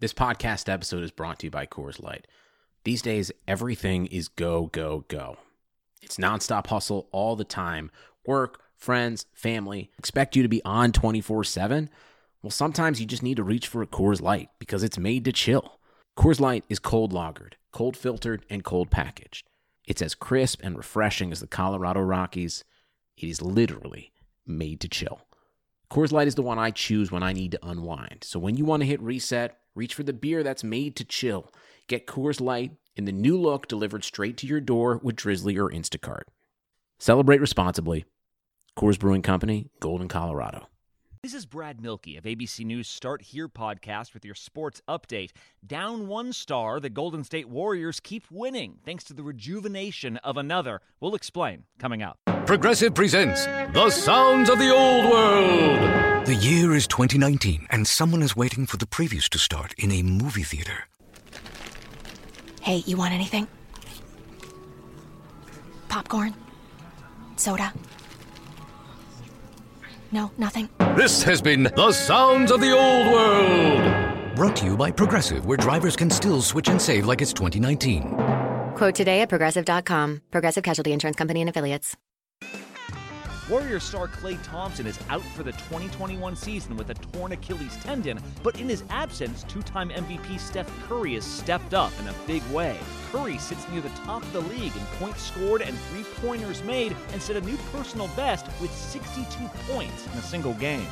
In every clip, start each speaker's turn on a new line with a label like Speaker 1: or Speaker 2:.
Speaker 1: This podcast episode is brought to you by Coors Light. These days, everything is go, go, go. It's nonstop hustle all the time. Work, friends, family, expect you to be on 24/7. Well, sometimes you just need to reach for a Coors Light because it's made to chill. Coors Light is cold lagered, cold filtered, and cold packaged. It's as crisp and refreshing as the Colorado Rockies. It is literally made to chill. Coors Light is the one I choose when I need to unwind. So when you want to hit reset, reach for the beer that's made to chill. Get Coors Light in the new look delivered straight to your door with Drizzly or Instacart. Celebrate responsibly. Coors Brewing Company, Golden, Colorado.
Speaker 2: This is Brad Milkey of ABC News Start Here podcast with your sports update. Down one star, the Golden State Warriors keep winning thanks to the rejuvenation of another. We'll explain coming up.
Speaker 3: Progressive presents The Sounds of the Old World. The year is 2019, and someone is waiting for the previews to start in a movie theater.
Speaker 4: Hey, you want anything? Popcorn? Soda? No, nothing?
Speaker 3: This has been The Sounds of the Old World. Brought to you by Progressive, where drivers can still switch and save like it's 2019.
Speaker 5: Quote today at Progressive.com. Progressive Casualty Insurance Company and Affiliates.
Speaker 2: Warriors star Klay Thompson is out for the 2021 season with a torn Achilles tendon, but in his absence, two-time MVP Steph Curry has stepped up in a big way. Curry sits near the top of the league in points scored and three-pointers made and set a new personal best with 62 points in a single game.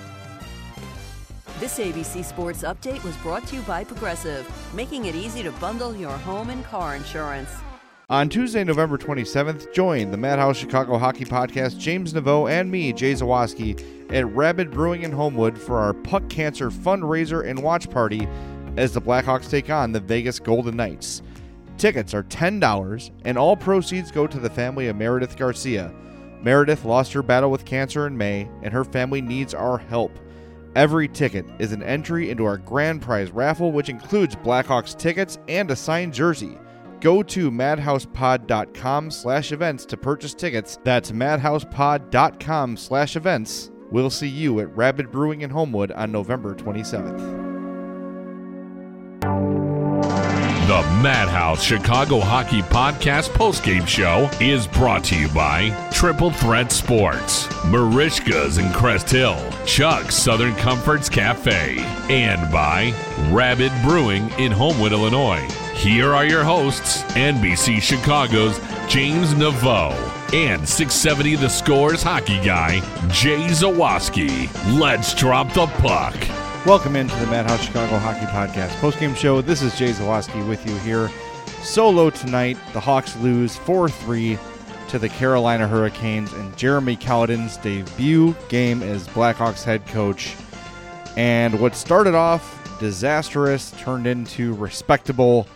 Speaker 6: This ABC Sports Update was brought to you by Progressive, making it easy to bundle your home and car insurance.
Speaker 7: On Tuesday, November 27th, join the Madhouse Chicago Hockey Podcast, James Naveau, and me, Jay Zawaski, at Rabid Brewing in Homewood for our Puck Cancer fundraiser and watch party as the Blackhawks take on the Vegas Golden Knights. Tickets are $10, and all proceeds go to the family of Meredith Garcia. Meredith lost her battle with cancer in May, and her family needs our help. Every ticket is an entry into our grand prize raffle, which includes Blackhawks tickets and a signed jersey. Go to madhousepod.com/events to purchase tickets. That's madhousepod.com/events. We'll see you at Rabid Brewing in Homewood on November 27th.
Speaker 8: The Madhouse Chicago Hockey Podcast postgame show is brought to you by Triple Threat Sports, Marishka's in Crest Hill, Chuck's Southern Comforts Cafe, and by Rabid Brewing in Homewood, Illinois. Here are your hosts, NBC Chicago's James Naveau and 670 The Scores hockey guy, Jay Zawaski. Let's drop the puck.
Speaker 7: Welcome into the Madhouse Chicago Hockey Podcast postgame show. This is Jay Zawaski with you here. Solo tonight, the Hawks lose 4-3 to the Carolina Hurricanes in Jeremy Colliton's debut game as Blackhawks head coach. And what started off disastrous turned into respectable.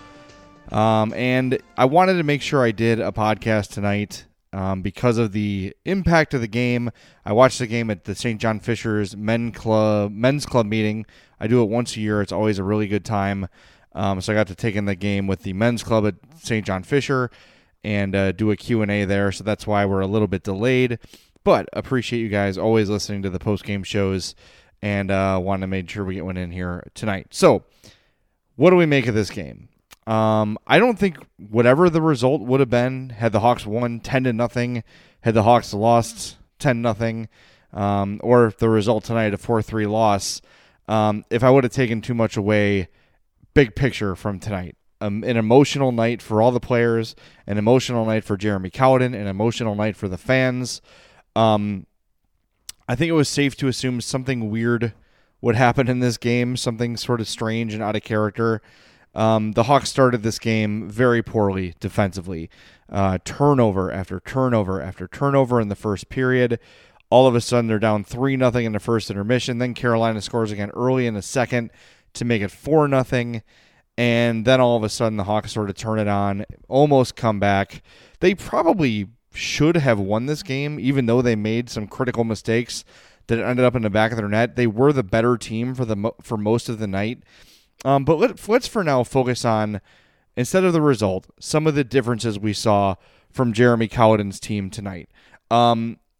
Speaker 7: And I wanted to make sure I did a podcast tonight because of the impact of the game. I watched the game at the St. John Fisher's men's club meeting. I do it once a year. It's always a really good time. So I got to take in the game with the men's club at St. John Fisher and do a Q&A there. So that's why we're a little bit delayed. But appreciate you guys always listening to the post-game shows and want to make sure we get one in here tonight. So what do we make of this game? I don't think whatever the result would have been, had the Hawks won 10-0, had the Hawks lost 10-0, or if the result tonight, a 4-3 loss, if I would have taken too much away, big picture from tonight. An emotional night for all the players, an emotional night for Jeremy Colliton, an emotional night for the fans. I think it was safe to assume something weird would happen in this game, something sort of strange and out of character. The Hawks started this game very poorly defensively. Turnover after turnover after turnover in the first period. All of a sudden, they're down 3-0 in the first intermission. Then Carolina scores again early in the second to make it 4-0. And then all of a sudden, the Hawks sort of turn it on, almost come back. They probably should have won this game, even though they made some critical mistakes that ended up in the back of their net. They were the better team for most of the night. But let's for now focus on, instead of the result, some of the differences we saw from Jeremy Colliton's team tonight.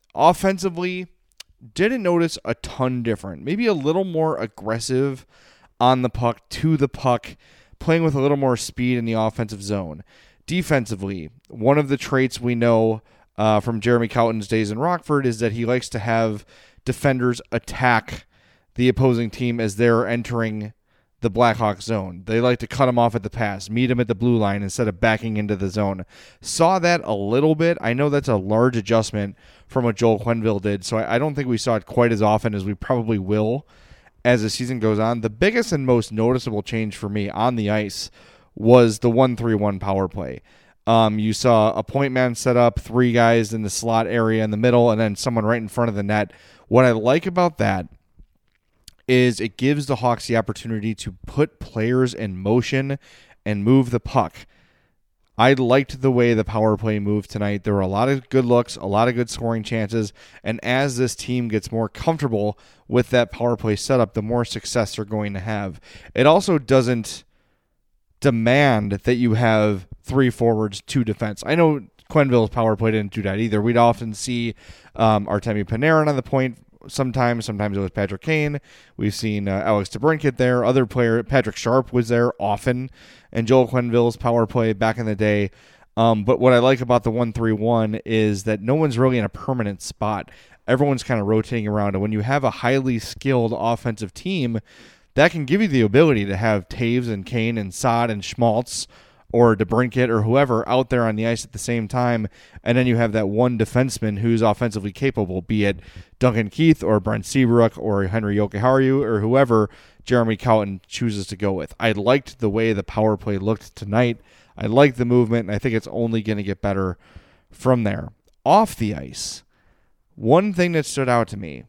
Speaker 7: Offensively, didn't notice a ton different. Maybe a little more aggressive on the puck, to the puck, playing with a little more speed in the offensive zone. Defensively, one of the traits we know from Jeremy Colliton's days in Rockford is that he likes to have defenders attack the opposing team as they're entering the Blackhawks zone. They like to cut them off at the pass, meet them at the blue line instead of backing into the zone. Saw that a little bit. I know that's a large adjustment from what Joel Quenneville did, so I don't think we saw it quite as often as we probably will as the season goes on. The biggest and most noticeable change for me on the ice was the 1-3-1 power play. You saw a point man set up, 3 guys in the slot area in the middle, and then someone right in front of the net. What I like about that is it gives the Hawks the opportunity to put players in motion and move the puck. I liked the way the power play moved tonight. There were a lot of good looks, a lot of good scoring chances, and as this team gets more comfortable with that power play setup, the more success they're going to have. It also doesn't demand that you have 3 forwards, 2 defense. I know Quenneville's power play didn't do that either. We'd often see Artemi Panarin on the point sometimes it was Patrick Kane. We've seen Alex DeBrincat there. Other player, Patrick Sharp was there often, and Joel Quenneville's power play back in the day. But what I like about the 1-3-1 is that no one's really in a permanent spot. Everyone's kind of rotating around, and when you have a highly skilled offensive team, that can give you the ability to have Taves and Kane and Saad and Schmaltz or DeBrincat or whoever out there on the ice at the same time, and then you have that one defenseman who's offensively capable, be it Duncan Keith or Brent Seabrook or Henry Jokiharju or whoever Jeremy Colliton chooses to go with. I liked the way the power play looked tonight. I like the movement, and I think it's only going to get better from there. Off the ice, one thing that stood out to me,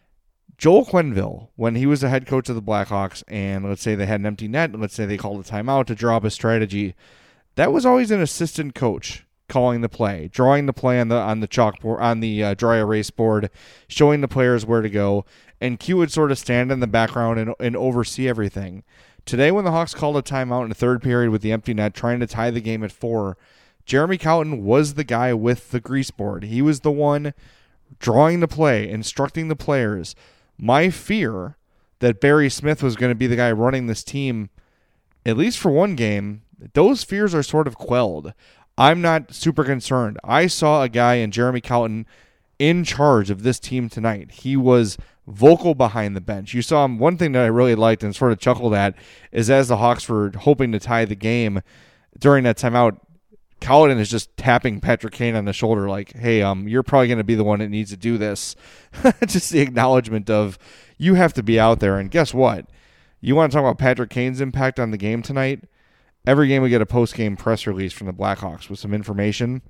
Speaker 7: Joel Quenneville, when he was the head coach of the Blackhawks, and let's say they had an empty net, and let's say they called a timeout to draw up a strategy, that was always an assistant coach calling the play, drawing the play on the chalkboard, on the dry erase board, showing the players where to go, and Q would sort of stand in the background and oversee everything. Today, when the Hawks called a timeout in the third period with the empty net, trying to tie the game at 4, Jeremy Colliton was the guy with the grease board. He was the one drawing the play, instructing the players. My fear that Barry Smith was going to be the guy running this team, at least for one game, those fears are sort of quelled. I'm not super concerned. I saw a guy in Jeremy Colliton in charge of this team tonight. He was vocal behind the bench. You saw him. One thing that I really liked and sort of chuckled at is as the Hawks were hoping to tie the game during that timeout, Colliton is just tapping Patrick Kane on the shoulder like, hey, you're probably going to be the one that needs to do this. Just the acknowledgement of you have to be out there. And guess what? You want to talk about Patrick Kane's impact on the game tonight? Every game we get a post-game press release from the Blackhawks with some information.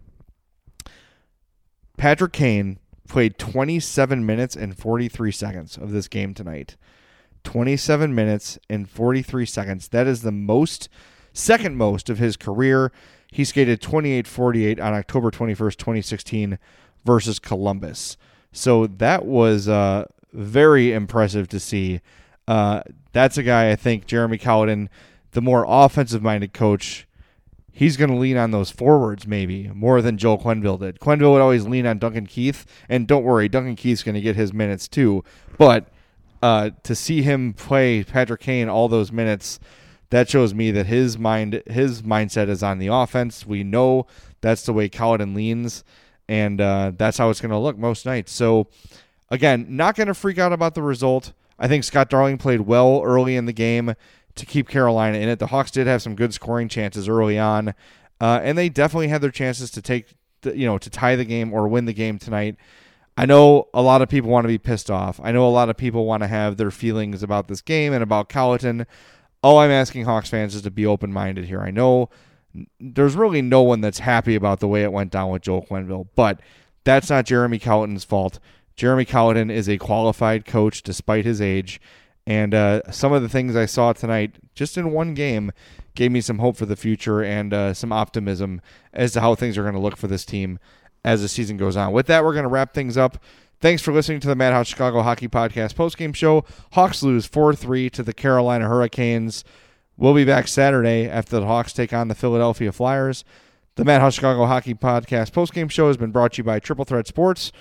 Speaker 7: Patrick Kane played 27 minutes and 43 seconds of this game tonight. 27 minutes and 43 seconds. That is the second most of his career. He skated 28-48 on October 21st, 2016 versus Columbus. So that was very impressive to see. That's a guy, I think, Jeremy Colliton, the more offensive-minded coach, he's going to lean on those forwards maybe more than Joel Quenneville did. Quenneville would always lean on Duncan Keith, and don't worry, Duncan Keith's going to get his minutes too. But to see him play Patrick Kane all those minutes, that shows me that his mindset is on the offense. We know that's the way Colliton leans, and that's how it's going to look most nights. So, again, not going to freak out about the result. I think Scott Darling played well early in the game to keep Carolina in it. The Hawks did have some good scoring chances early on, and they definitely had their chances to to tie the game or win the game tonight. I know a lot of people want to be pissed off. I know a lot of people want to have their feelings about this game and about Colliton. All I'm asking Hawks fans is to be open-minded here. I know there's really no one that's happy about the way it went down with Joel Quenneville, but that's not Jeremy Colliton's fault. Jeremy Colliton is a qualified coach despite his age, and some of the things I saw tonight, just in one game, gave me some hope for the future and some optimism as to how things are going to look for this team as the season goes on. With that, we're going to wrap things up. Thanks for listening to the Madhouse Chicago Hockey Podcast postgame show. Hawks lose 4-3 to the Carolina Hurricanes. We'll be back Saturday after the Hawks take on the Philadelphia Flyers. The Madhouse Chicago Hockey Podcast postgame show has been brought to you by Triple Threat Sports.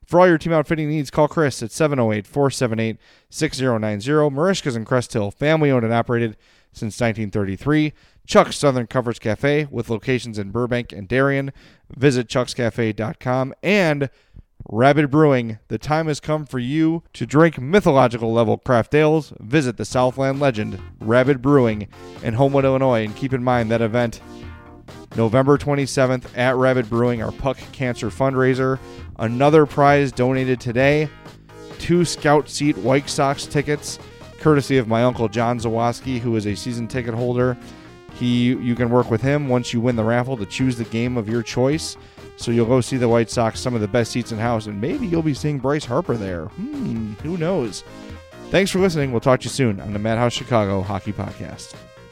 Speaker 7: For all your team outfitting needs, call Chris at 708-478-6090. Marishka's in Crest Hill, family owned and operated since 1933. Chuck's Southern Comforts Cafe with locations in Burbank and Darien. Visit chuckscafe.com. And Rabid Brewing, the time has come for you to drink mythological level craft ales. Visit the Southland legend, Rabid Brewing in Homewood, Illinois. And keep in mind that event, November 27th at Rabid Brewing, our Puck Cancer fundraiser. Another prize donated today, 2 Scout Seat White Sox tickets, courtesy of my uncle John Zawoski, who is a season ticket holder. You can work with him once you win the raffle to choose the game of your choice. So you'll go see the White Sox, some of the best seats in house, and maybe you'll be seeing Bryce Harper there. Who knows? Thanks for listening. We'll talk to you soon on the Madhouse Chicago Hockey Podcast.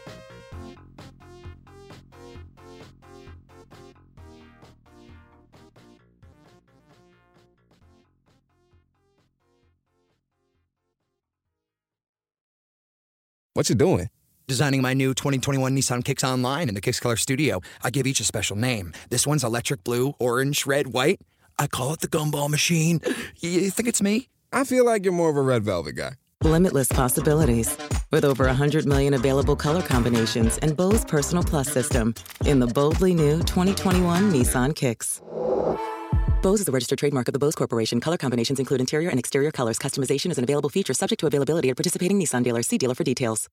Speaker 9: What you doing? Designing my new 2021 Nissan Kicks online in the Kicks Color Studio. I give each a special name. This one's electric blue, orange, red, white. I call it the Gumball Machine. You think it's me?
Speaker 10: I feel like you're more of a red velvet guy.
Speaker 11: Limitless possibilities. With over 100 million available color combinations and Bose Personal Plus system in the boldly new 2021 Nissan Kicks. Bose is a registered trademark of the Bose Corporation. Color combinations include interior and exterior colors. Customization is an available feature subject to availability at participating Nissan dealers. See dealer for details.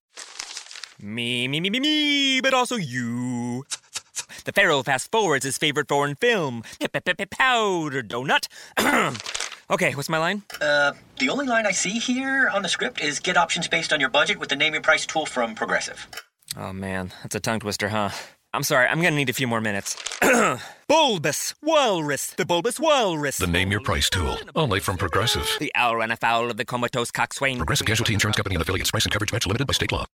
Speaker 12: Me, but also you. The Pharaoh fast forwards his favorite foreign film, Powder Donut. Okay, what's my line?
Speaker 13: The only line I see here on the script is get options based on your budget with the Name Your Price tool from Progressive.
Speaker 12: Oh man, that's a tongue twister, huh? I'm sorry, I'm gonna need a few more minutes. Bulbous Walrus, the Bulbous Walrus.
Speaker 3: The Name Your Price tool, only from Progressive.
Speaker 12: The owl ran afoul of the comatose coxswain.
Speaker 3: Progressive Casualty Insurance Company and affiliates. Price and coverage match limited by state law.